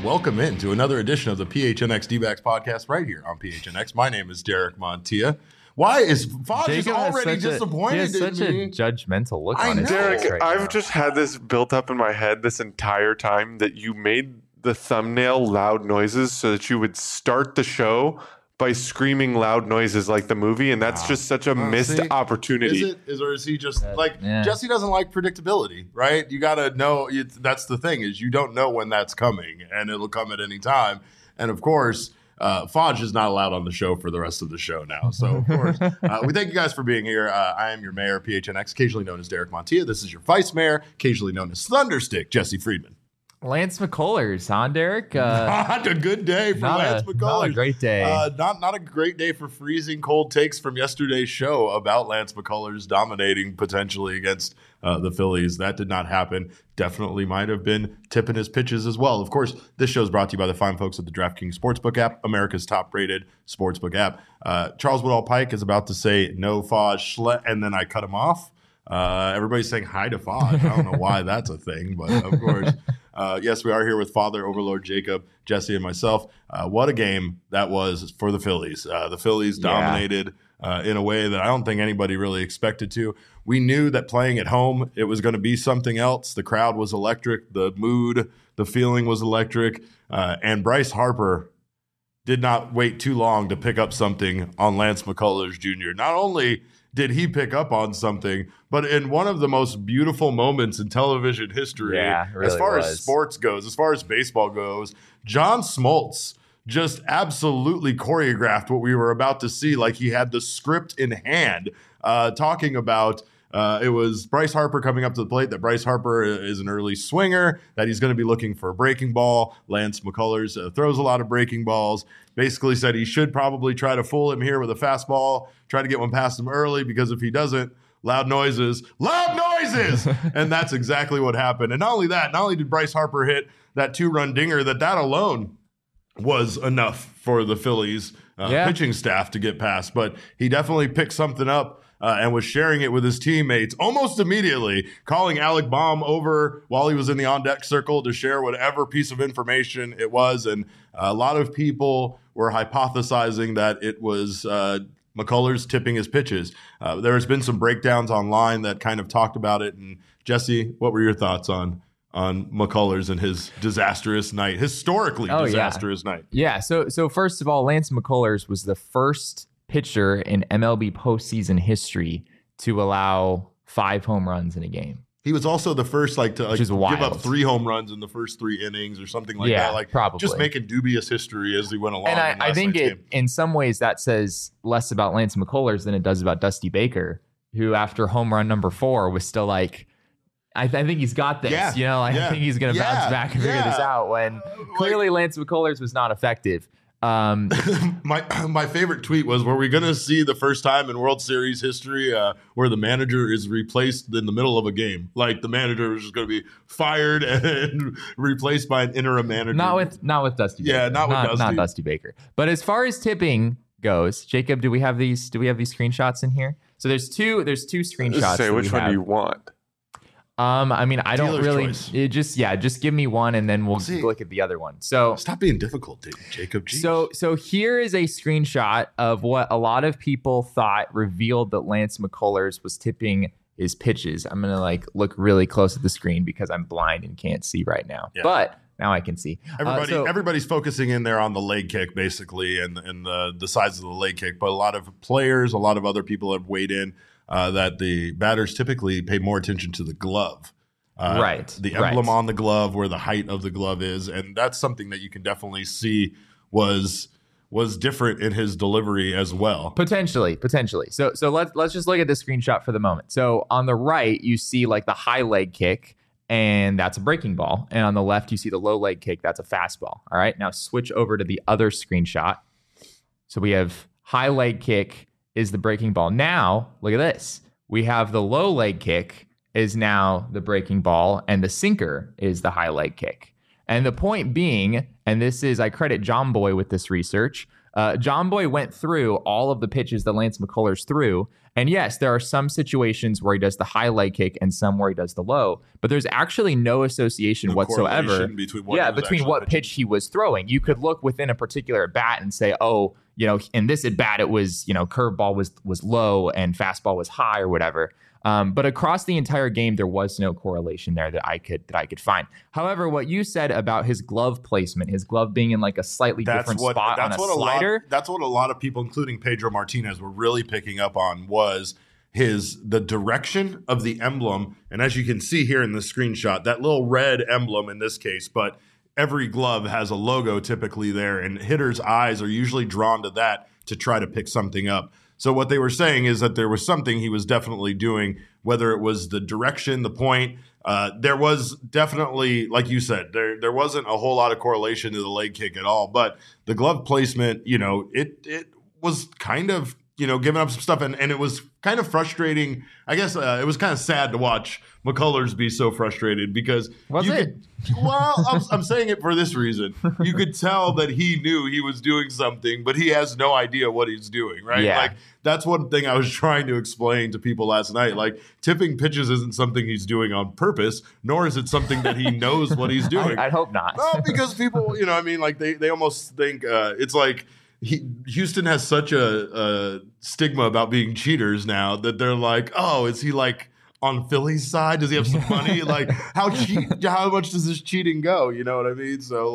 welcome into another edition of the PHNX D-backs podcast right here on PHNX. My name is Derek Montilla. Why is Foz just already disappointed he has such in me? a judgmental look on his Derek, face right I've now. just had this built up in my head this entire time that you made the thumbnail loud noises so that you would start the show by screaming loud noises like the movie, and that's just such a missed opportunity. Is he just Yeah. Jesse doesn't like predictability, right? You got to know. That's the thing is you don't know when that's coming, and it'll come at any time. And of course, Fodge is not allowed on the show for the rest of the show now. So of course, we thank you guys for being here. I am your mayor, PHNX, occasionally known as Derek Montilla. This is your vice mayor, occasionally known as Thunderstick, Jesse Friedman. Lance McCullers, huh, Derek? Not a good day for Lance McCullers. Not a great day. Not a great day for freezing cold takes from yesterday's show about Lance McCullers dominating potentially against the Phillies. That did not happen. Definitely might have been tipping his pitches as well. Of course, this show is brought to you by the fine folks at the DraftKings Sportsbook app, America's top-rated sportsbook app. Charles Woodall Pike is about to say no Foz and then I cut him off. Everybody's saying hi to Foz. I don't know why that's a thing, but of course. Yes, we are here with Father Overlord Jacob, Jesse, and myself. What a game that was for the Phillies. The Phillies dominated in a way that I don't think anybody really expected to. We knew that playing at home, it was going to be something else. The crowd was electric. The mood, the feeling was electric. And Bryce Harper did not wait too long to pick up something on Lance McCullers Jr. Not only did he pick up on something, but in one of the most beautiful moments in television history, really as far was. as sports goes, as far as baseball goes, John Smoltz just absolutely choreographed what we were about to see, like he had the script in hand, talking about it was Bryce Harper coming up to the plate, that Bryce Harper is an early swinger, that he's going to be looking for a breaking ball. Lance McCullers throws a lot of breaking balls. Basically said he should probably try to fool him here with a fastball, try to get one past him early, because if he doesn't, loud noises. And that's exactly what happened. And not only that, not only did Bryce Harper hit that 2-run dinger, that alone was enough for the Phillies pitching staff to get past. But he definitely picked something up and was sharing it with his teammates almost immediately, calling Alec Baum over while he was in the on-deck circle to share whatever piece of information it was. And a lot of people were hypothesizing that it was McCullers tipping his pitches. There has been some breakdowns online that kind of talked about it. And Jesse, what were your thoughts on McCullers and his disastrous night, historically disastrous night? Yeah. So first of all, Lance McCullers was the first pitcher in MLB postseason history to allow 5 home runs in a game. He was also the first to give wild. up 3 home runs in the first 3 innings or something like that. Probably. Just making dubious history as he went along. And I think in some ways that says less about Lance McCullers than it does about Dusty Baker, who after home run number 4 was still like, I think he's got this. I think he's going to bounce back and figure this out, when clearly Lance McCullers was not effective. My favorite tweet was, were we going to see the first time in World Series history where the manager is replaced in the middle of a game? Like the manager is just going to be fired and replaced by an interim manager. Not with Dusty Baker. Yeah, not Dusty Baker. But as far as tipping goes, Jacob, do we have these screenshots in here? So there's two screenshots. Say which one do you want? I mean, I don't Dealer's really. choice. Just give me one, and then we'll look at the other one. So stop being difficult, Jacob. Jeez. So here is a screenshot of what a lot of people thought revealed that Lance McCullers was tipping his pitches. I'm gonna look really close at the screen because I'm blind and can't see right now. Yeah. But now I can see. Everybody's focusing in there on the leg kick, basically, and the size of the leg kick. But a lot of players, a lot of other people have weighed in. That the batters typically pay more attention to the glove. The emblem on the glove, where the height of the glove is. And that's something that you can definitely see was different in his delivery as well. Potentially. So let's just look at this screenshot for the moment. So on the right, you see the high leg kick, and that's a breaking ball. And on the left, you see the low leg kick. That's a fastball. All right, now switch over to the other screenshot. So we have high leg kick is the breaking ball. Now, look at this. We have the low leg kick is now the breaking ball, and the sinker is the high leg kick. And the point being, and this is, I credit John Boy with this research, John Boy went through all of the pitches that Lance McCullers threw And yes, there are some situations where he does the high leg kick and some where he does the low, but there's actually no association whatsoever correlation between what pitch he was throwing. You could look within a particular at bat and say, oh, in this at bat, it was, curveball was low and fastball was high or whatever. But across the entire game, there was no correlation there that I could find. However, what you said about his glove placement, his glove being in like a slightly different spot on a slider. That's what a lot of people, including Pedro Martinez, were really picking up on was the direction of the emblem. And as you can see here in the screenshot, that little red emblem in this case, but every glove has a logo typically there, and hitters' eyes are usually drawn to that to try to pick something up. So what they were saying is that there was something he was definitely doing, whether it was the direction, the point. There was definitely, like you said, there wasn't a whole lot of correlation to the leg kick at all. But the glove placement, it was kind of, giving up some stuff. And it was kind of frustrating. I guess it was kind of sad to watch McCullers be so frustrated because I'm saying it for this reason. You could tell that he knew he was doing something, but he has no idea what he's doing, right? Yeah. Like that's one thing I was trying to explain to people last night. Like tipping pitches isn't something he's doing on purpose, nor is it something that he knows what he's doing. I'd hope not. Well, because people, like they almost think it's like Houston has such a stigma about being cheaters now that they're like, oh, is he like on Philly's side? Does he have some money? Like how much does this cheating go? You know what I mean? So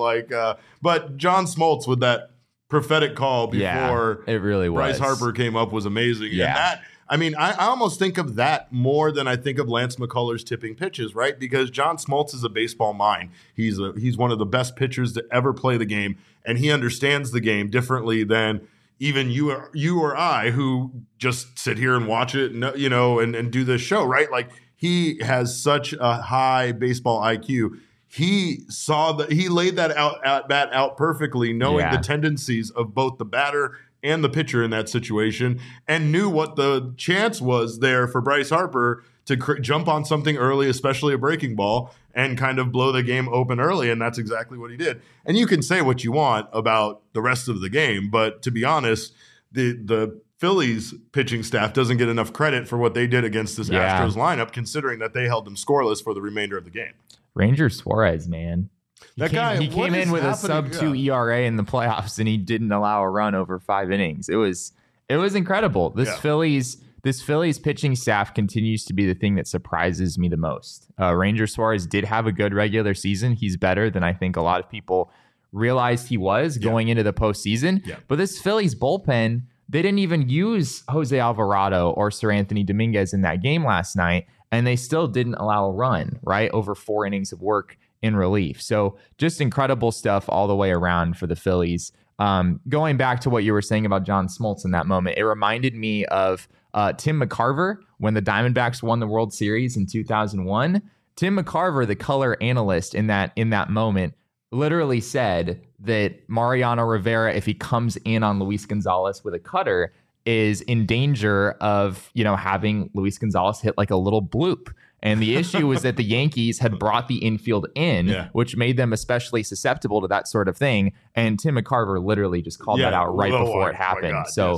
but John Smoltz with that prophetic call before it really was. Bryce Harper came up was amazing. Yeah. And I almost think of that more than I think of Lance McCullers tipping pitches, right? Because John Smoltz is a baseball mind. He's one of the best pitchers to ever play the game, and he understands the game differently than even you or I, who just sit here and watch it, and do this show, right? Like he has such a high baseball IQ. He laid that at bat out perfectly, knowing the tendencies of both the batter and the pitcher in that situation, and knew what the chance was there for Bryce Harper to jump on something early, especially a breaking ball, and kind of blow the game open early, and that's exactly what he did. And you can say what you want about the rest of the game, but to be honest, the Phillies pitching staff doesn't get enough credit for what they did against this Astros lineup, considering that they held them scoreless for the remainder of the game. Ranger Suarez, man. He came in with a sub-2 ERA in the playoffs, and he didn't allow a run over 5 innings. It was incredible. This Phillies pitching staff continues to be the thing that surprises me the most. Ranger Suarez did have a good regular season. He's better than I think a lot of people realized he was going into the postseason. Yeah. But this Phillies bullpen, they didn't even use Jose Alvarado or Sir Anthony Dominguez in that game last night, and they still didn't allow a run, right? Over 4 innings of work in relief. So just incredible stuff all the way around for the Phillies. Going back to what you were saying about John Smoltz in that moment, it reminded me of Tim McCarver when the Diamondbacks won the World Series in 2001. Tim McCarver, the color analyst in that moment, literally said that Mariano Rivera, if he comes in on Luis Gonzalez with a cutter, is in danger of, having Luis Gonzalez hit like a little bloop. And the issue was that the Yankees had brought the infield in, which made them especially susceptible to that sort of thing. And Tim McCarver literally just called that out right before it happened. God, so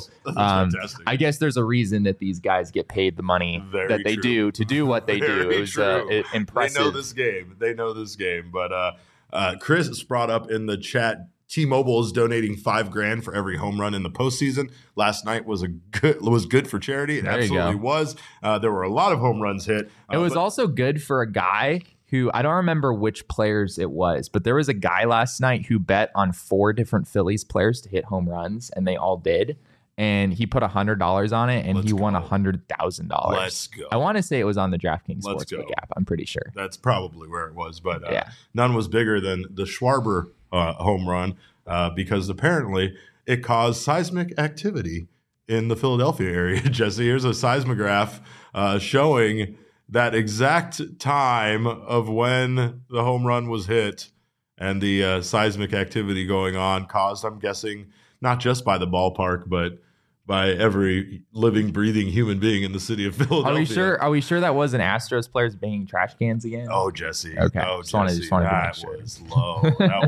I guess there's a reason that these guys get paid the money that they do to do what they do. It was impressive. They know this game. But Chris brought up in the chat, T-Mobile is donating $5,000 for every home run in the postseason. Last night was good for charity. It absolutely was. There were a lot of home runs hit. It was also good for a guy who, I don't remember which players it was, but there was a guy last night who bet on 4 different Phillies players to hit home runs, and they all did. And he put $100 on it, and he won $100,000. Let's go. I want to say it was on the DraftKings Sportsbook app. I'm pretty sure. That's probably where it was, but none was bigger than the Schwarber home run because apparently it caused seismic activity in the Philadelphia area. Jesse, here's a seismograph showing that exact time of when the home run was hit, and the seismic activity going on caused, I'm guessing, not just by the ballpark, but by every living, breathing human being in the city of Philadelphia. Are we sure that wasn't Astros players banging trash cans again? Oh, Jesse. Okay. Oh, Just wanted to make sure. Was low.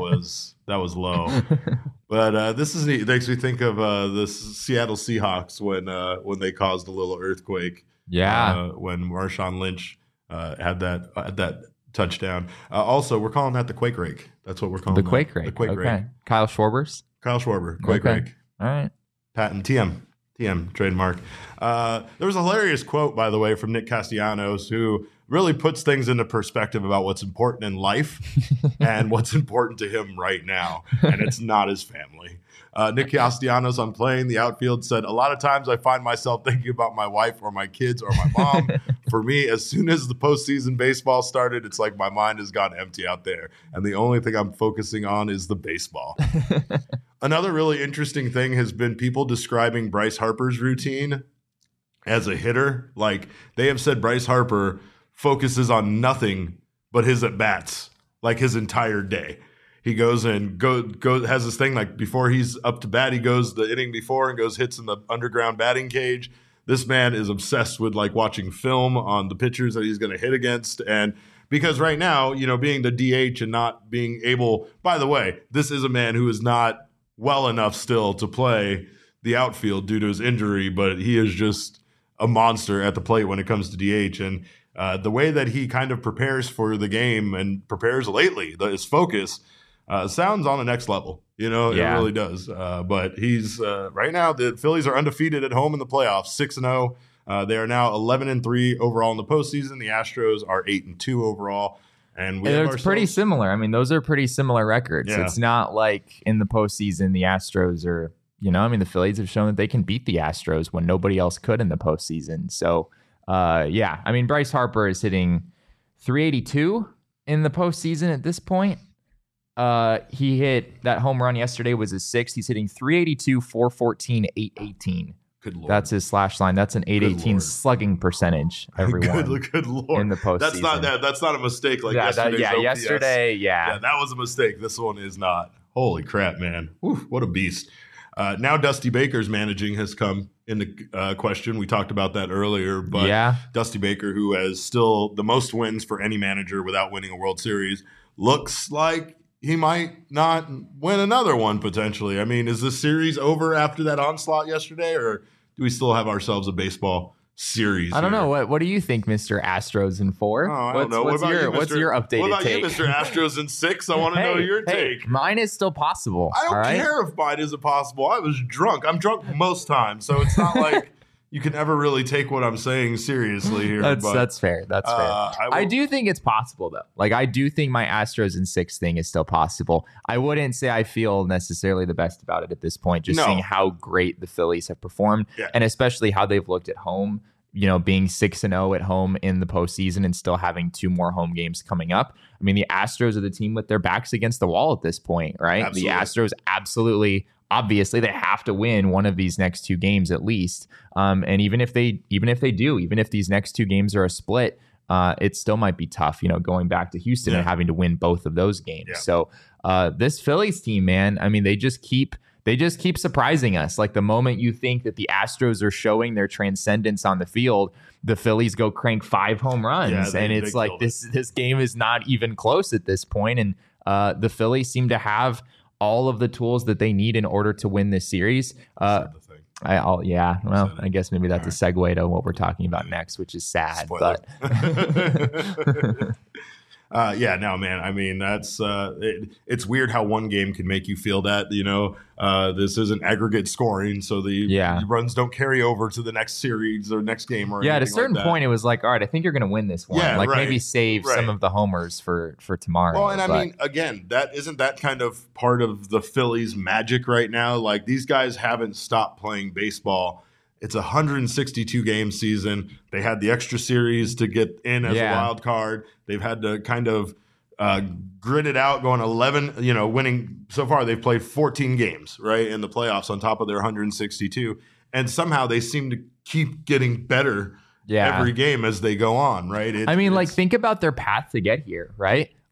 That was low. But this is neat. It makes me think of the Seattle Seahawks when they caused a little earthquake. Yeah. When Marshawn Lynch had that touchdown. Also, we're calling that the Quake Rake. That's what we're calling The that. Quake Rake. The Quake Okay. Rake. Kyle Schwarber. Quake Rake. All right. Patent TM trademark. There was a hilarious quote, by the way, from Nick Castellanos, who really puts things into perspective about what's important in life and what's important to him right now. And it's not his family. Nick Castellanos on Playing the Outfield said, "A lot of times I find myself thinking about my wife or my kids or my mom. For me, as soon as the postseason baseball started, it's like my mind has gone empty out there. And the only thing I'm focusing on is the baseball." Another really interesting thing has been people describing Bryce Harper's routine as a hitter. Like, they have said Bryce Harper focuses on nothing but his at-bats, like his entire day. He goes and has this thing like before he's up to bat, he goes the inning before and hits in the underground batting cage. This man is obsessed with like watching film on the pitchers that he's going to hit against. And because right now, being the DH and not being able, by the way, this is a man who is not well enough still to play the outfield due to his injury, but he is just a monster at the plate when it comes to DH. And the way that he kind of prepares for the game and prepares lately, his focus sounds on the next level. It really does. But he's right now, the Phillies are undefeated at home in the playoffs, 6-0. They are now 11-3 overall in the postseason. The Astros are 8-2 overall. And it's pretty similar. I mean, those are pretty similar records. Yeah. It's not like in the postseason, the Astros are, the Phillies have shown that they can beat the Astros when nobody else could in the postseason. So, Bryce Harper is hitting 382 in the postseason at this point. He hit that home run yesterday was his sixth. He's hitting 382, 414, 818. Good Lord. That's his slash line. That's an 818 slugging percentage. Everyone, good Lord, in the postseason. That's not a mistake. Like yesterday's OPS. Yesterday, that was a mistake. This one is not. Holy crap, man! Whew, what a beast. Now Dusty Baker's managing has come into question. We talked about that earlier, but Dusty Baker, who has still the most wins for any manager without winning a World Series, looks like he might not win another one potentially. I mean, is this series over after that onslaught yesterday, or do we still have ourselves a baseball series? I don't know. What do you think, Mr. Astros in 4? Oh, I don't know. What's your updated take? What about you, Mr. Astros in 6? I want to know your take. Mine is still possible. I don't care if mine isn't possible. I was drunk. I'm drunk most times, so it's not like you can ever really take what I'm saying seriously here. That's fair. That's fair. I do think it's possible, though. Like, I do think my Astros in 6 thing is still possible. I wouldn't say I feel necessarily the best about it at this point, just seeing how great the Phillies have performed, and especially how they've looked at home, being 6-0 at home in the postseason and still having 2 more home games coming up. I mean, the Astros are the team with their backs against the wall at this point, right? Absolutely. The Astros obviously they have to win one of these next 2 games at least. And even if these next 2 games are a split, it still might be tough, going back to Houston and having to win both of those games. Yeah. So this Phillies team, man, I mean, they just keep surprising us. Like, the moment you think that the Astros are showing their transcendence on the field, the Phillies go crank 5 home runs. And it's like this game is not even close at this point. And the Phillies seem to have all of the tools that they need in order to win this series. I guess maybe that's a segue to what we're talking about next, which is sad. Spoiler. But man. I mean, that's it's weird how one game can make you feel that. This isn't aggregate scoring, so the runs don't carry over to the next series or next game or anything. At a certain point, it was like, all right, I think you're going to win this one. Maybe save some of the homers for tomorrow. Well, and I mean, again, that kind of part of the Phillies' magic right now. Like, these guys haven't stopped playing baseball. It's a 162 game season. They had the extra series to get in as a wild card. They've had to kind of grit it out, going 11, winning so far. They've played 14 games, right, in the playoffs on top of their 162. And somehow they seem to keep getting better every game as they go on, right? Think about their path to get here, right?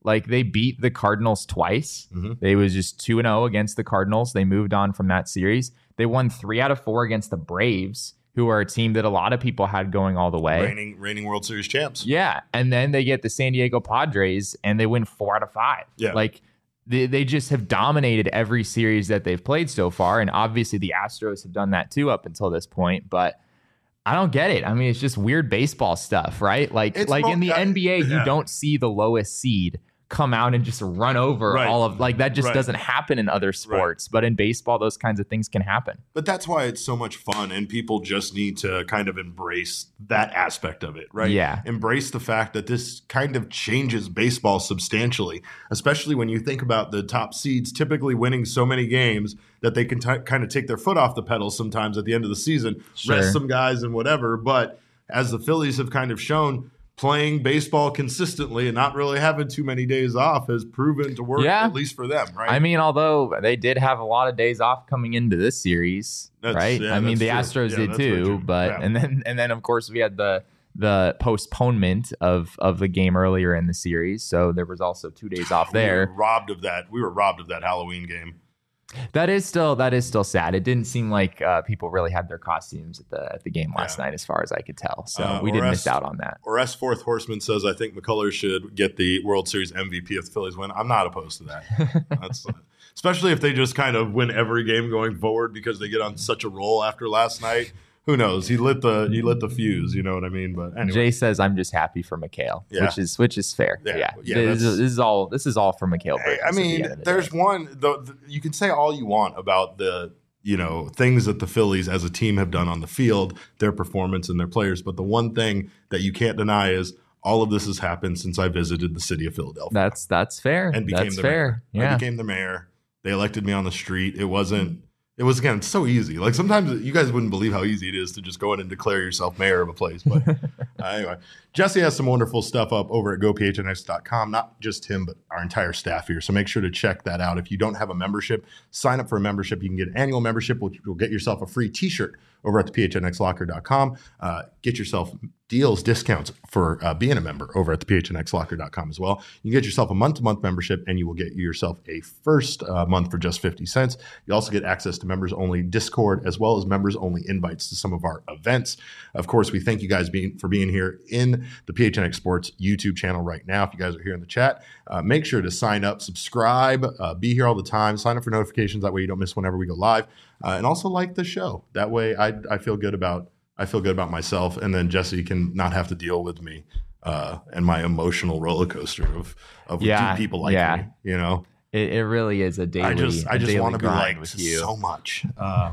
Like they beat the Cardinals twice. Mm-hmm. They was just 2-0 against the Cardinals. They moved on from that series. They won 3 out of 4 against the Braves, who are a team that a lot of people had going all the way. Reigning World Series champs. Yeah. And then they get the San Diego Padres and they win 4 out of 5. Yeah. Like they just have dominated every series that they've played so far. And obviously the Astros have done that too up until this point. But I don't get it. I mean, it's just weird baseball stuff, right? Like in the NBA, you don't see the lowest seed come out and just run over all of like that just doesn't happen in other sports, but in baseball those kinds of things can happen. But that's why it's so much fun, and people just need to kind of embrace that aspect of it, right? Yeah. Embrace the fact that this kind of changes baseball substantially, especially when you think about the top seeds typically winning so many games that they can kind of take their foot off the pedal sometimes at the end of the season, rest some guys and whatever. But as the Phillies have kind of shown, playing baseball consistently and not really having too many days off has proven to work, at least for them, right? I mean, although they did have a lot of days off coming into this series, right? Yeah, I mean, the true. Astros did too, but and then of course we had the postponement of the game earlier in the series, so there was also 2 days off there. We were robbed of that Halloween game. That is still sad. It didn't seem like people really had their costumes at the game last night, as far as I could tell. So we did miss out on that. Or S Fourth Horseman says, I think McCullers should get the World Series MVP if the Phillies win. I'm not opposed to that. That's especially if they just kind of win every game going forward because they get on such a roll after last night. Who knows? He lit the fuse. You know what I mean? But anyway. Jay says I'm just happy for McHale, which is fair. Yeah. This is all for McHale. I mean, there's one. You can say all you want about the things that the Phillies as a team have done on the field, their performance and their players, but the one thing that you can't deny is all of this has happened since I visited the city of Philadelphia. That's fair. And became the mayor. Yeah. I became the mayor. They elected me on the street. It was again, it's so easy. Like sometimes you guys wouldn't believe how easy it is to just go in and declare yourself mayor of a place. But anyway, Jesse has some wonderful stuff up over at gophnx.com. Not just him, but our entire staff here. So make sure to check that out. If you don't have a membership, sign up for a membership. You can get an annual membership, which will get yourself a free t-shirt over at the phnxlocker.com. Get yourself discounts for being a member over at the phnxlocker.com as well. You can get yourself a month-to-month membership, and you will get yourself a first month for just 50 cents. You also get access to members-only Discord, as well as members-only invites to some of our events. Of course, we thank you guys for being here in the PHNX Sports YouTube channel right now. If you guys are here in the chat, make sure to sign up, subscribe, be here all the time, sign up for notifications. That way you don't miss whenever we go live. And also like the show. That way I feel good about myself, and then Jesse can not have to deal with me and my emotional roller coaster of do people like me, you know? It really is a daily. I just want to be liked with you so much.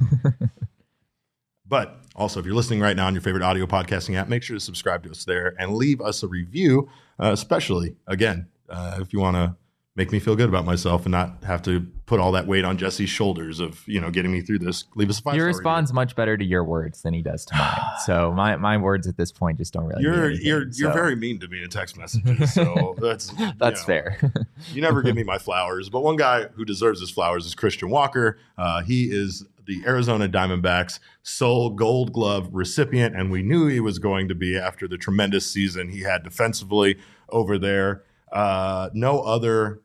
But also, if you're listening right now on your favorite audio podcasting app, make sure to subscribe to us there and leave us a review, especially, again, if you want to make me feel good about myself and not have to put all that weight on Jesse's shoulders of, getting me through this. Leave us a 5-star review. He responds much better to your words than he does to mine. So my words at this point just don't really mean anything. You're very mean to me in text messages. So that's fair. You never give me my flowers. But one guy who deserves his flowers is Christian Walker. He is the Arizona Diamondbacks sole Gold Glove recipient, and we knew he was going to be after the tremendous season he had defensively over there. No other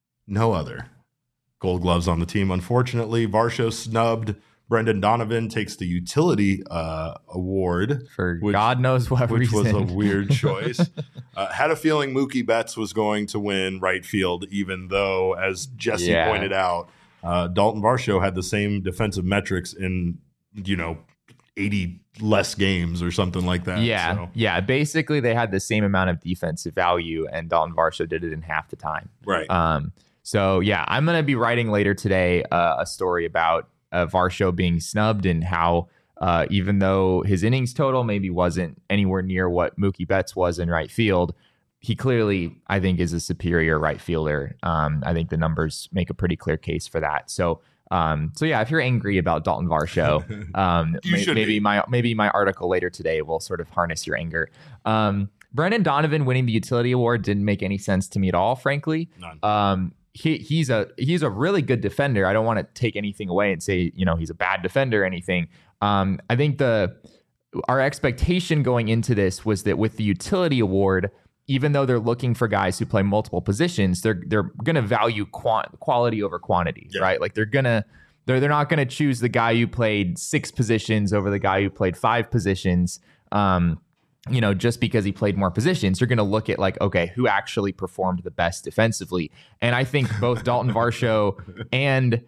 Gold Gloves on the team. Unfortunately, Varsho snubbed. Brendan Donovan takes the utility award for God knows what which reason. Was a weird choice. Had a feeling Mookie Betts was going to win right field, even though, as Jesse pointed out, Dalton Varsho had the same defensive metrics in 80 less games or something like that. Yeah. Basically, they had the same amount of defensive value, and Dalton Varsho did it in half the time. Right. So I'm going to be writing later today a story about Varsho being snubbed and how even though his innings total maybe wasn't anywhere near what Mookie Betts was in right field, he clearly, I think, is a superior right fielder. I think the numbers make a pretty clear case for that. So if you're angry about Dalton Varsho, maybe my article later today will sort of harness your anger. Brendan Donovan winning the utility award didn't make any sense to me at all, frankly. None. He's a really good defender. I don't want to take anything away and say, he's a bad defender or anything. I think our expectation going into this was that with the utility award, even though they're looking for guys who play multiple positions, they're going to value quality over quantity, right? Like they're not going to choose the guy who played 6 positions over the guy who played 5 positions. Just because he played more positions, you're going to look at like, okay, who actually performed the best defensively? And I think both Dalton Varsho and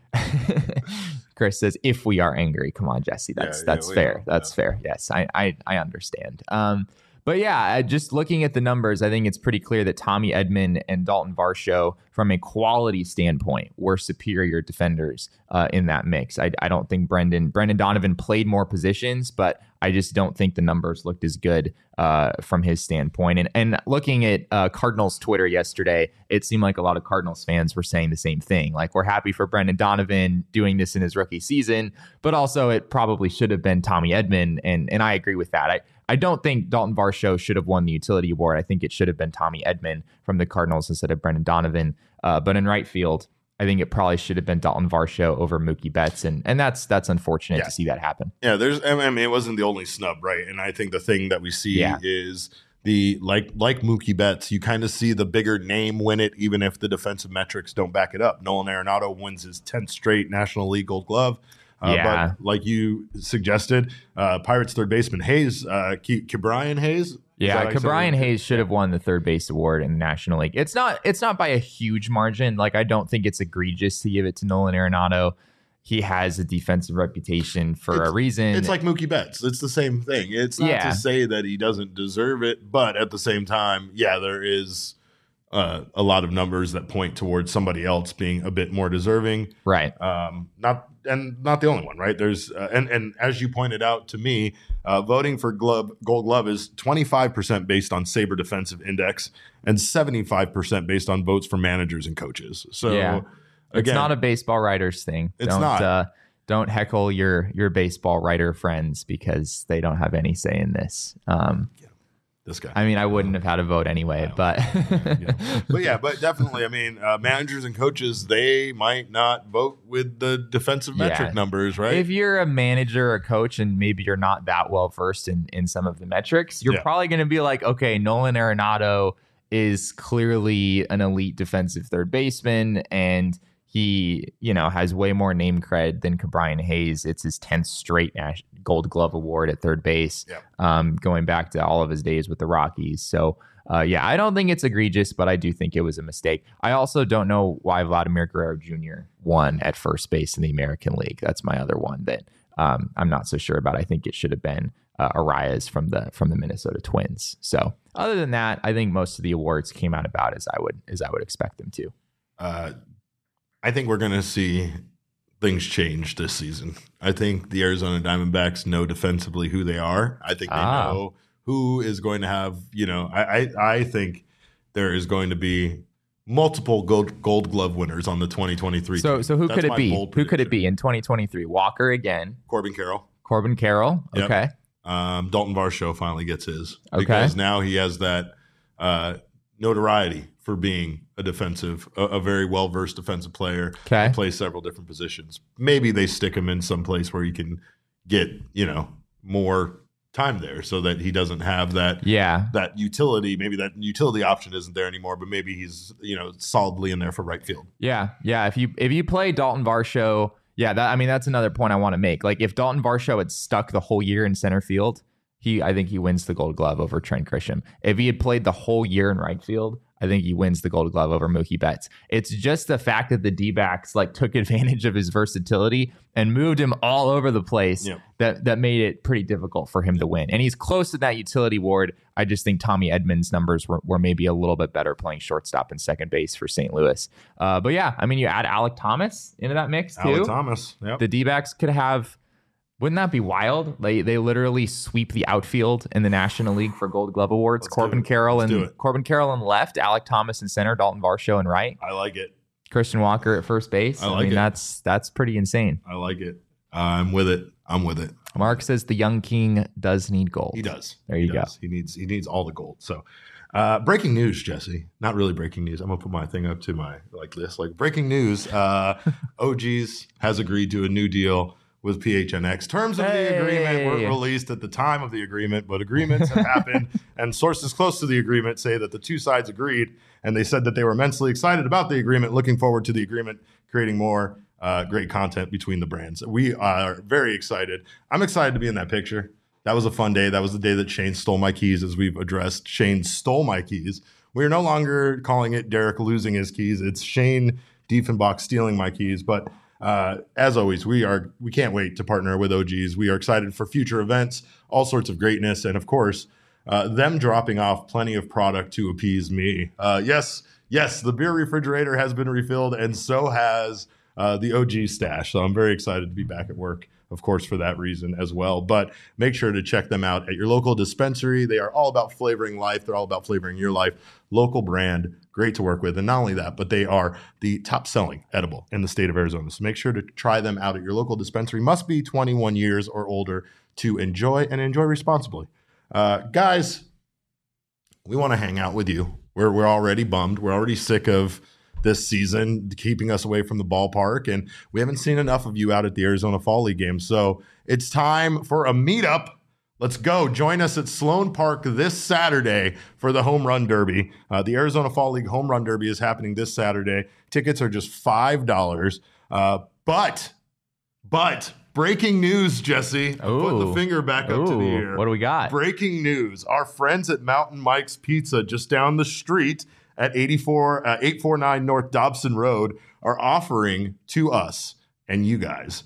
Chris says, if we are angry, come on, Jesse, that's fair. That's fair. Yes, I understand. But yeah, just looking at the numbers, I think it's pretty clear that Tommy Edman and Dalton Varsho, from a quality standpoint, were superior defenders in that mix. I don't think Brendan Donovan played more positions, but I just don't think the numbers looked as good from his standpoint. And looking at Cardinals Twitter yesterday, it seemed like a lot of Cardinals fans were saying the same thing. Like, we're happy for Brendan Donovan doing this in his rookie season, but also it probably should have been Tommy Edman. And I agree with that. I don't think Dalton Varsho should have won the utility award. I think it should have been Tommy Edman from the Cardinals instead of Brendan Donovan. But in right field, I think it probably should have been Dalton Varsho over Mookie Betts, and that's unfortunate to see that happen. Yeah, it wasn't the only snub, right? And I think the thing that we see is the like Mookie Betts, you kind of see the bigger name win it, even if the defensive metrics don't back it up. Nolan Arenado wins his 10th straight National League Gold Glove. But like you suggested, Pirates third baseman Hayes, Ke'Bryan Hayes. Yeah, Ke'Bryan Hayes should have won the third base award in the National League. It's not by a huge margin. Like, I don't think it's egregious to give it to Nolan Arenado. He has a defensive reputation for a reason. It's like Mookie Betts. It's the same thing. It's not to say that he doesn't deserve it, but at the same time, there is a lot of numbers that point towards somebody else being a bit more deserving. Right. Not the only one, right? There's and as you pointed out to me, voting for Gold Glove is 25% based on Sabre Defensive Index and 75% based on votes for managers and coaches. So it's not a baseball writers thing. Don't heckle your baseball writer friends because they don't have any say in this. This guy. I mean, I wouldn't have had a vote anyway, but but definitely, I mean, managers and coaches, they might not vote with the defensive metric numbers, right? If you're a manager or coach and maybe you're not that well versed in some of the metrics, you're probably going to be like, okay, Nolan Arenado is clearly an elite defensive third baseman, and he, has way more name cred than Ke'Bryan Hayes. It's his 10th straight Gold Glove award at third base, going back to all of his days with the Rockies. So, I don't think it's egregious, but I do think it was a mistake. I also don't know why Vladimir Guerrero Jr. won at first base in the American League. That's my other one that I'm not so sure about. I think it should have been Arias from the Minnesota Twins. So, other than that, I think most of the awards came out about as I would expect them to. I think we're going to see things change this season. I think the Arizona Diamondbacks know defensively who they are. I think they know who is going to have, I think there is going to be multiple gold glove winners on the 2023 team. So who could it be? Who could it be in 2023? Walker again. Corbin Carroll. Yep. Okay. Dalton Varsho finally gets his. Because now he has that notoriety for being a very well-versed defensive player. Okay. He plays several different positions. Maybe they stick him in some place where he can get, more time there so that he doesn't have that utility. Maybe that utility option isn't there anymore, but maybe he's, solidly in there for right field. Yeah. Yeah. If you play Dalton Varsho, that's another point I want to make. Like, if Dalton Varsho had stuck the whole year in center field, I think he wins the Gold Glove over Trent Grisham. If he had played the whole year in right field, I think he wins the Gold Glove over Mookie Betts. It's just the fact that the D-backs took advantage of his versatility and moved him all over the place that made it pretty difficult for him to win. And he's close to that utility award. I just think Tommy Edman's numbers were maybe a little bit better playing shortstop and second base for St. Louis. But you add Alek Thomas into that mix too. Alek Thomas, The D-backs could have. Wouldn't that be wild? They literally sweep the outfield in the National League for Gold Glove awards. Corbin Carroll in left, Alek Thomas in center, Dalton Varsho in right. I like it. Christian Walker at first base. I mean, that's pretty insane. I like it. I'm with it. Mark says the young king does need gold. He does. There you go. He needs all the gold. So, breaking news, Jesse. Not really breaking news. I'm gonna put my thing up to my breaking news. OGs has agreed to a new deal with PHNX. Terms of the agreement weren't released at the time of the agreement, but agreements have happened, and sources close to the agreement say that the two sides agreed, and they said that they were immensely excited about the agreement, looking forward to the agreement, creating more great content between the brands. We are very excited. I'm excited to be in that picture. That was a fun day. That was the day that Shane stole my keys, as we've addressed. Shane stole my keys. We are no longer calling it Derek losing his keys. It's Shane Diefenbach stealing my keys. But as always, we can't wait to partner with OGs. We are excited for future events, all sorts of greatness, and of course, them dropping off plenty of product to appease me. Yes, the beer refrigerator has been refilled, and so has the OG stash. So I'm very excited to be back at work, of course, for that reason as well. But make sure to check them out at your local dispensary. They are all about flavoring life. They're all about flavoring your life. Local brand, great to work with. And not only that, but they are the top selling edible in the state of Arizona. So make sure to try them out at your local dispensary. Must be 21 years or older to enjoy, and enjoy responsibly. Guys, we want to hang out with you. We're already bummed. We're already sick of this season keeping us away from the ballpark, and we haven't seen enough of you out at the Arizona Fall League game. So it's time for a meetup. Let's go. Join us at Sloan Park this Saturday for the Home Run Derby. The Arizona Fall League Home Run Derby is happening this Saturday. Tickets are just $5. But breaking news, Jesse. Putting the finger back up to the air. What do we got? Breaking news. Our friends at Mountain Mike's Pizza just down the street at 849 North Dobson Road are offering to us and you guys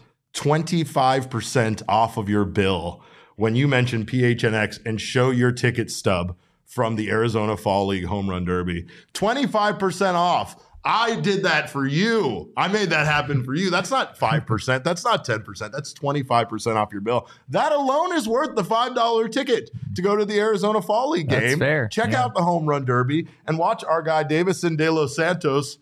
25% off of your bill when you mention PHNX and show your ticket stub from the Arizona Fall League Home Run Derby. 25% off. I did that for you. I made that happen for you. That's not 5%. That's not 10%. That's 25% off your bill. That alone is worth the $5 ticket to go to the Arizona Fall League game. That's fair. Check out the Home Run Derby and watch our guy Davison De Los Santos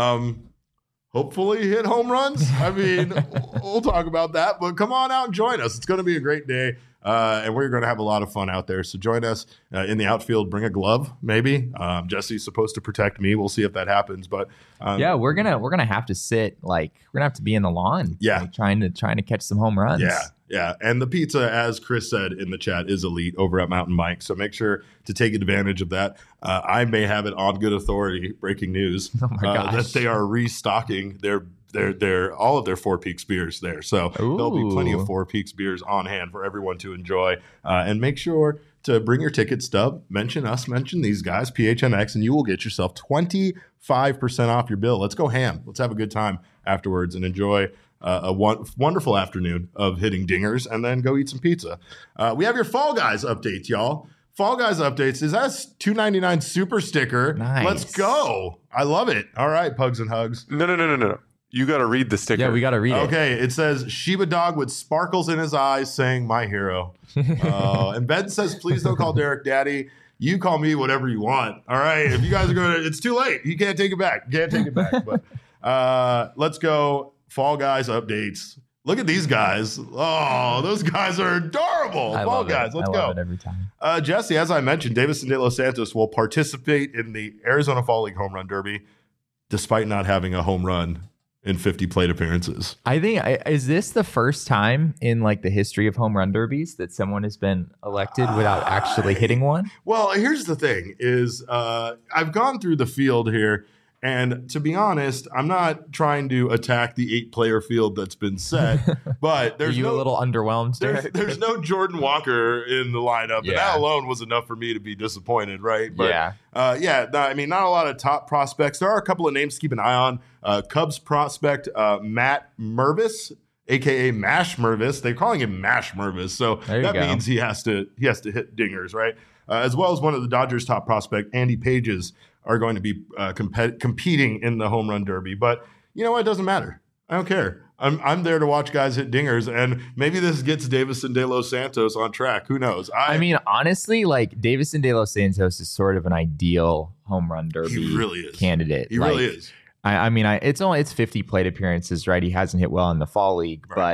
hopefully hit home runs. I mean, we'll talk about that, but come on out and join us. It's going to be a great day. And we're going to have a lot of fun out there. So join us in the outfield. Bring a glove, maybe. Jesse's supposed to protect me. We'll see if that happens. But yeah, we're gonna have to sit, like, we're gonna have to be in the lawn. Yeah, like, trying to catch some home runs. Yeah. And the pizza, as Chris said in the chat, is elite over at Mountain Mike. So make sure to take advantage of that. I may have it on good authority. Breaking news that they are restocking their all of their Four Peaks beers there. So there'll be plenty of Four Peaks beers on hand for everyone to enjoy. And make sure to bring your ticket stub, mention us, mention these guys, PHNX, and you will get yourself 25% off your bill. Let's go ham. Let's have a good time afterwards and enjoy a wonderful afternoon of hitting dingers, and then go eat some pizza. We have your Fall Guys updates, y'all. Fall Guys updates is that $2.99 super sticker. Nice. Let's go. I love it. All right, Pugs and Hugs. No. You got to read the sticker. Yeah, we got to read it. Okay, it says Shiba Dog with sparkles in his eyes saying my hero. And Ben says, please don't call Derek daddy. You call me whatever you want. All right, if you guys are going to, it's too late. You can't take it back. But let's go. Fall Guys updates. Look at these guys. Oh, those guys are adorable. Fall Guys, let's go. I love it every time. Jesse, as I mentioned, Davison De Los Santos will participate in the Arizona Fall League Home Run Derby despite not having a home run in 50 plate appearances. I think, is this the first time in like the history of home run derbies that someone has been elected without actually hitting one? Well, here's the thing is I've gone through the field here, and to be honest, I'm not trying to attack the 8-player field that's been set, but there's Are you a little underwhelmed? There's no Jordan Walker in the lineup, and that alone was enough for me to be disappointed, right? But, I mean, not a lot of top prospects. There are a couple of names to keep an eye on. Cubs prospect Matt Mervis, aka Mash Mervis. They're calling him Mash Mervis, so that means he has to hit dingers, right? As well as one of the Dodgers' top prospect, Andy Pages, are going to be competing in the home run derby. But you know what? It doesn't matter. I don't care. I'm there to watch guys hit dingers, and maybe this gets Davison De Los Santos on track. Who knows? I mean, honestly, like Davison De Los Santos is sort of an ideal home run derby candidate. He really is. I mean, it's 50 plate appearances, right? He hasn't hit well in the fall league, but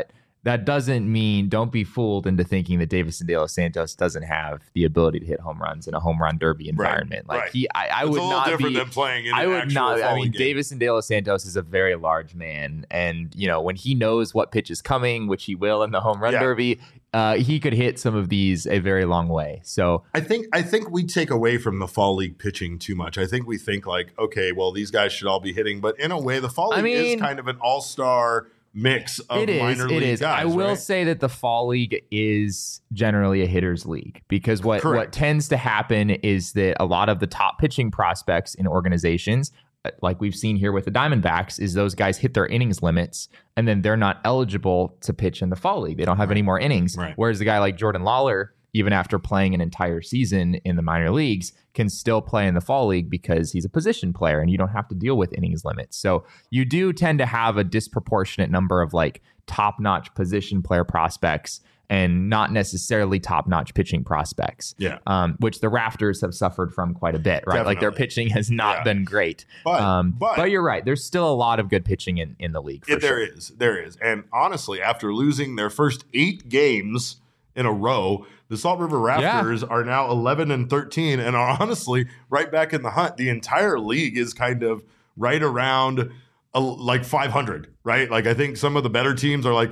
that doesn't mean don't be fooled into thinking that Davison De Los Santos doesn't have the ability to hit home runs in a home run derby environment. Right, like right. I It's would a little not different be. than playing in I an would actual not. I Foley mean, game. Davison De Los Santos is a very large man, and when he knows what pitch is coming, which he will in the home run derby, he could hit some of these a very long way. So I think we take away from the fall league pitching too much. I think we think like, okay, well, these guys should all be hitting, but in a way, the fall league is kind of an all-star mix of minor league guys. I will right? say that the fall league is generally a hitter's league because what tends to happen is that a lot of the top pitching prospects in organizations, like we've seen here with the Diamondbacks, is those guys hit their innings limits and then they're not eligible to pitch in the fall league. They don't have any more innings. Right. Whereas the guy like Jordan Lawler, even after playing an entire season in the minor leagues, can still play in the fall league because he's a position player and you don't have to deal with innings limits. So you do tend to have a disproportionate number of like top-notch position player prospects and not necessarily top-notch pitching prospects. Yeah. Which the Raptors have suffered from quite a bit, right? Definitely. Like their pitching has not been great. But you're right. There's still a lot of good pitching in the league. For There is. And honestly, after losing their first 8 games in a row, the Salt River Raptors are now 11-13 and are honestly right back in the hunt. The entire league is kind of right around like 500, right? Like I think some of the better teams are like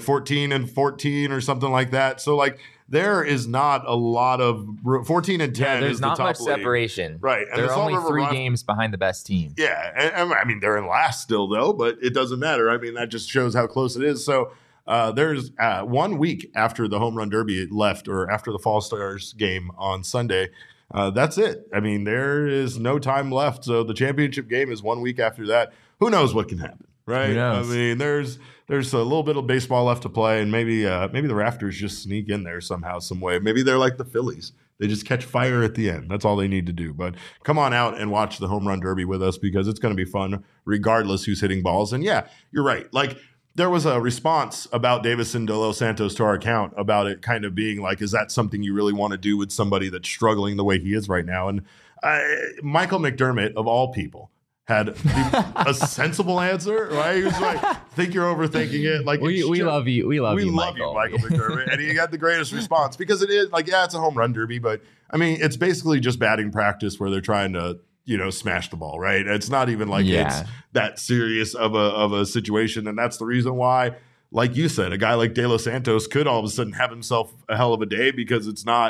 14-14 or something like that. So like there is not a lot of 14-10. There's is not the top much league. separation, right? And they're the Salt only River 3 games behind the best team. Yeah, and I mean they're in last still though, but it doesn't matter. I mean that just shows how close it is. So there's 1 week after the home run derby left, or after the Fall Stars game on Sunday. That's it. I mean, there is no time left. So the championship game is 1 week after that. Who knows what can happen, right? Who knows? I mean, there's a little bit of baseball left to play, and maybe the Raptors just sneak in there somehow, some way. Maybe they're like the Phillies. They just catch fire at the end. That's all they need to do. But come on out and watch the home run derby with us because it's going to be fun regardless who's hitting balls. And yeah, you're right. Like, there was a response about Davison De Los Santos to our account about it kind of being like, is that something you really want to do with somebody that's struggling the way he is right now? And Michael McDermott, of all people, had a sensible answer, right? He was like, I think you're overthinking it. Like we love you. We love you, Michael McDermott. And he got the greatest response because it is like, yeah, it's a home run derby, but I mean, it's basically just batting practice where they're trying to, smash the ball, right? It's not even like it's that serious of a situation. And that's the reason why, like you said, a guy like De Los Santos could all of a sudden have himself a hell of a day because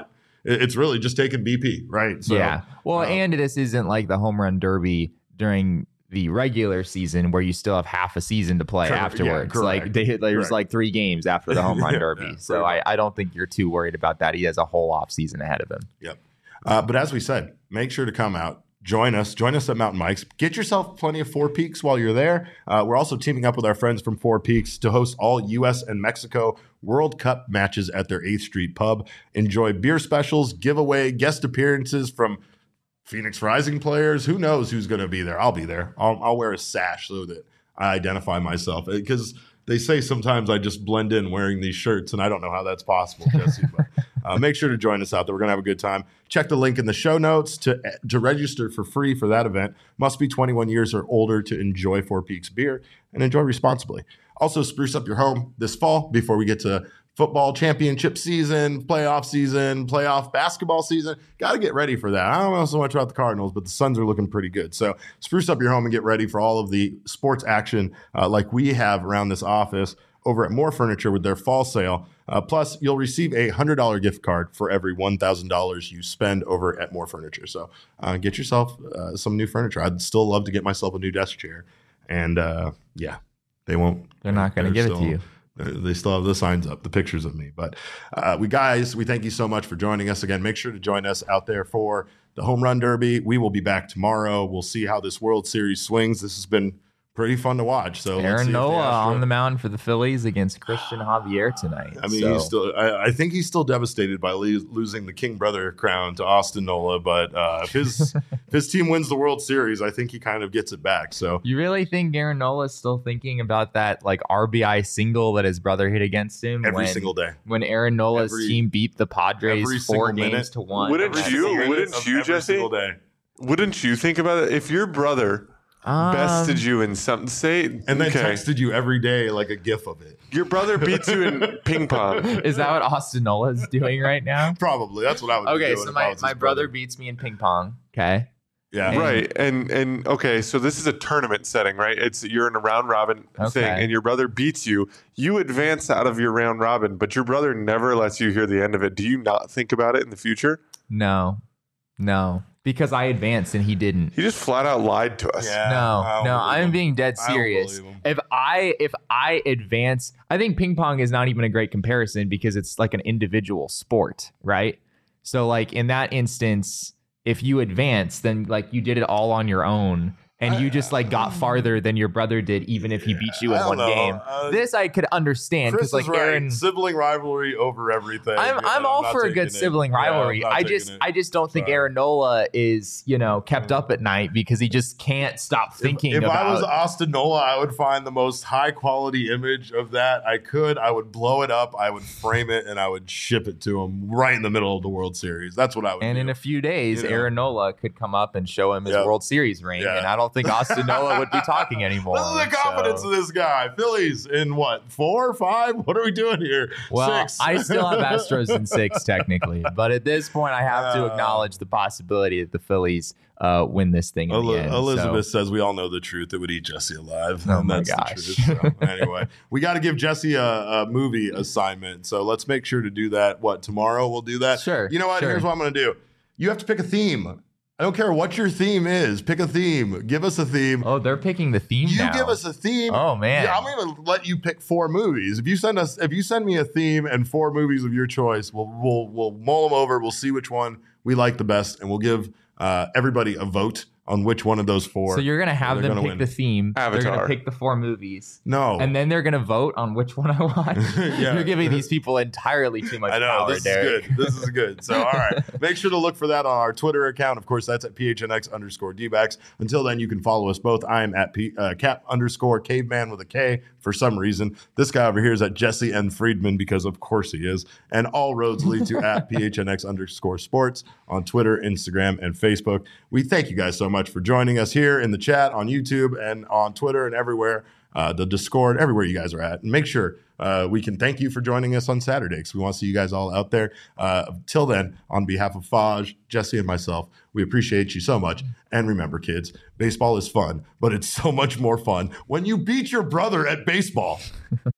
it's really just taking BP, right? So, yeah. Well, and this isn't like the home run derby during the regular season where you still have half a season to play afterwards. Like there's like 3 games after the home run derby. So I don't think you're too worried about that. He has a whole off season ahead of him. Yep. But as we said, make sure to come out. Join us at Mountain Mike's. Get yourself plenty of Four Peaks while you're there. We're also teaming up with our friends from Four Peaks to host all U.S. and Mexico World Cup matches at their 8th Street pub. Enjoy beer specials, giveaway, guest appearances from Phoenix Rising players. Who knows who's going to be there? I'll be there. I'll wear a sash so that I identify myself because they say sometimes I just blend in wearing these shirts, and I don't know how that's possible, Jesse. But make sure to join us out there. We're going to have a good time. Check the link in the show notes to register for free for that event. Must be 21 years or older to enjoy Four Peaks beer, and enjoy responsibly. Also, spruce up your home this fall before we get to football championship season, playoff basketball season. Got to get ready for that. I don't know so much about the Cardinals, but the Suns are looking pretty good. So spruce up your home and get ready for all of the sports action like we have around this office over at More Furniture with their fall sale. Plus, you'll receive a $100 gift card for every $1,000 you spend over at More Furniture. So get yourself some new furniture. I'd still love to get myself a new desk chair. And they won't. They're not going to give it to you. They still have the signs up, the pictures of me. But we thank you so much for joining us again. Make sure to join us out there for the Home Run Derby. We will be back tomorrow. We'll see how this World Series swings. This has been pretty fun to watch. So Aaron Nola on the mound for the Phillies against Christian Javier tonight. I mean, I think he's still devastated by losing the King brother crown to Austin Nola. But if his team wins the World Series, I think he kind of gets it back. So you really think Aaron Nola is still thinking about that like RBI single that his brother hit against him every single day when Aaron Nola's team beat the Padres 4 games to 1? Wouldn't you, Jesse? Wouldn't you think about it if your brother bested you in something. Say, and then texted you every day like a gif of it. Your brother beats you in ping pong. Is that what Austin Nola is doing right now? Probably. That's what I would be Okay, doing so if I was my his brother beats me in ping pong. Okay. Yeah. Right. And okay, so this is a tournament setting, right? You're in a round robin thing and your brother beats you. You advance out of your round robin, but your brother never lets you hear the end of it. Do you not think about it in the future? No. Because I advanced and he didn't. He just flat out lied to us. Yeah. No, I'm being dead serious. If I advance, I think ping pong is not even a great comparison because it's like an individual sport, right? So like in that instance, if you advance, then like you did it all on your own and you just like got farther than your brother did, even if he beat you in one game. This I could understand because like Aaron, sibling rivalry over everything. I'm all for a good sibling rivalry. I just don't think Aaron Nola is kept up at night because he just can't stop thinking. If I was Austin Nola, I would find the most high quality image of that I would blow it up, I would frame it, and I would ship it to him right in the middle of the World Series. That's what I would. And do. in a few days, Aaron Nola could come up and show him his World Series ring, and I don't think Austin Austin Nola would be talking anymore. Look at the confidence of this guy. Phillies in what, 4 or 5? What are we doing here? Well, 6. I still have Astros in 6 technically, but at this point, I have to acknowledge the possibility that the Phillies win this thing in the end. Elizabeth says we all know the truth. It would eat Jesse alive. Oh and my that's gosh. The truth. So, anyway, we got to give Jesse a movie assignment. So let's make sure to do that. What, tomorrow we'll do that? Sure. You know what? Sure. Here's what I'm going to do. You have to pick a theme. I don't care what your theme is. Pick a theme. Give us a theme. Oh, they're picking the theme You now. give us a theme. Oh man. Yeah, I'm going to let you pick 4 movies. If you send me a theme and 4 movies of your choice, we'll mull them over. We'll see which one we like the best, and we'll give everybody a vote on which one of those 4. So you're going to have them pick the theme. Avatar. They're going to pick the 4 movies. No. And then they're going to vote on which one I watch. Yeah. You're giving these people entirely too much I know. power, This Derek. is good. This is good. So, all right. Make sure to look for that on our Twitter account. Of course, that's at PHNX_DBacks. Until then, you can follow us both. I am at Cap_Caveman with a K for some reason. This guy over here is at Jesse N. Friedman because, of course, he is. And all roads lead to at PHNX_sports on Twitter, Instagram, and Facebook. We thank you guys so much for joining us here in the chat on YouTube and on Twitter and everywhere. The Discord, everywhere you guys are at. And make sure we can thank you for joining us on Saturday because we want to see you guys all out there. Till then, on behalf of Faj, Jesse, and myself, we appreciate you so much. And remember, kids, baseball is fun, but it's so much more fun when you beat your brother at baseball.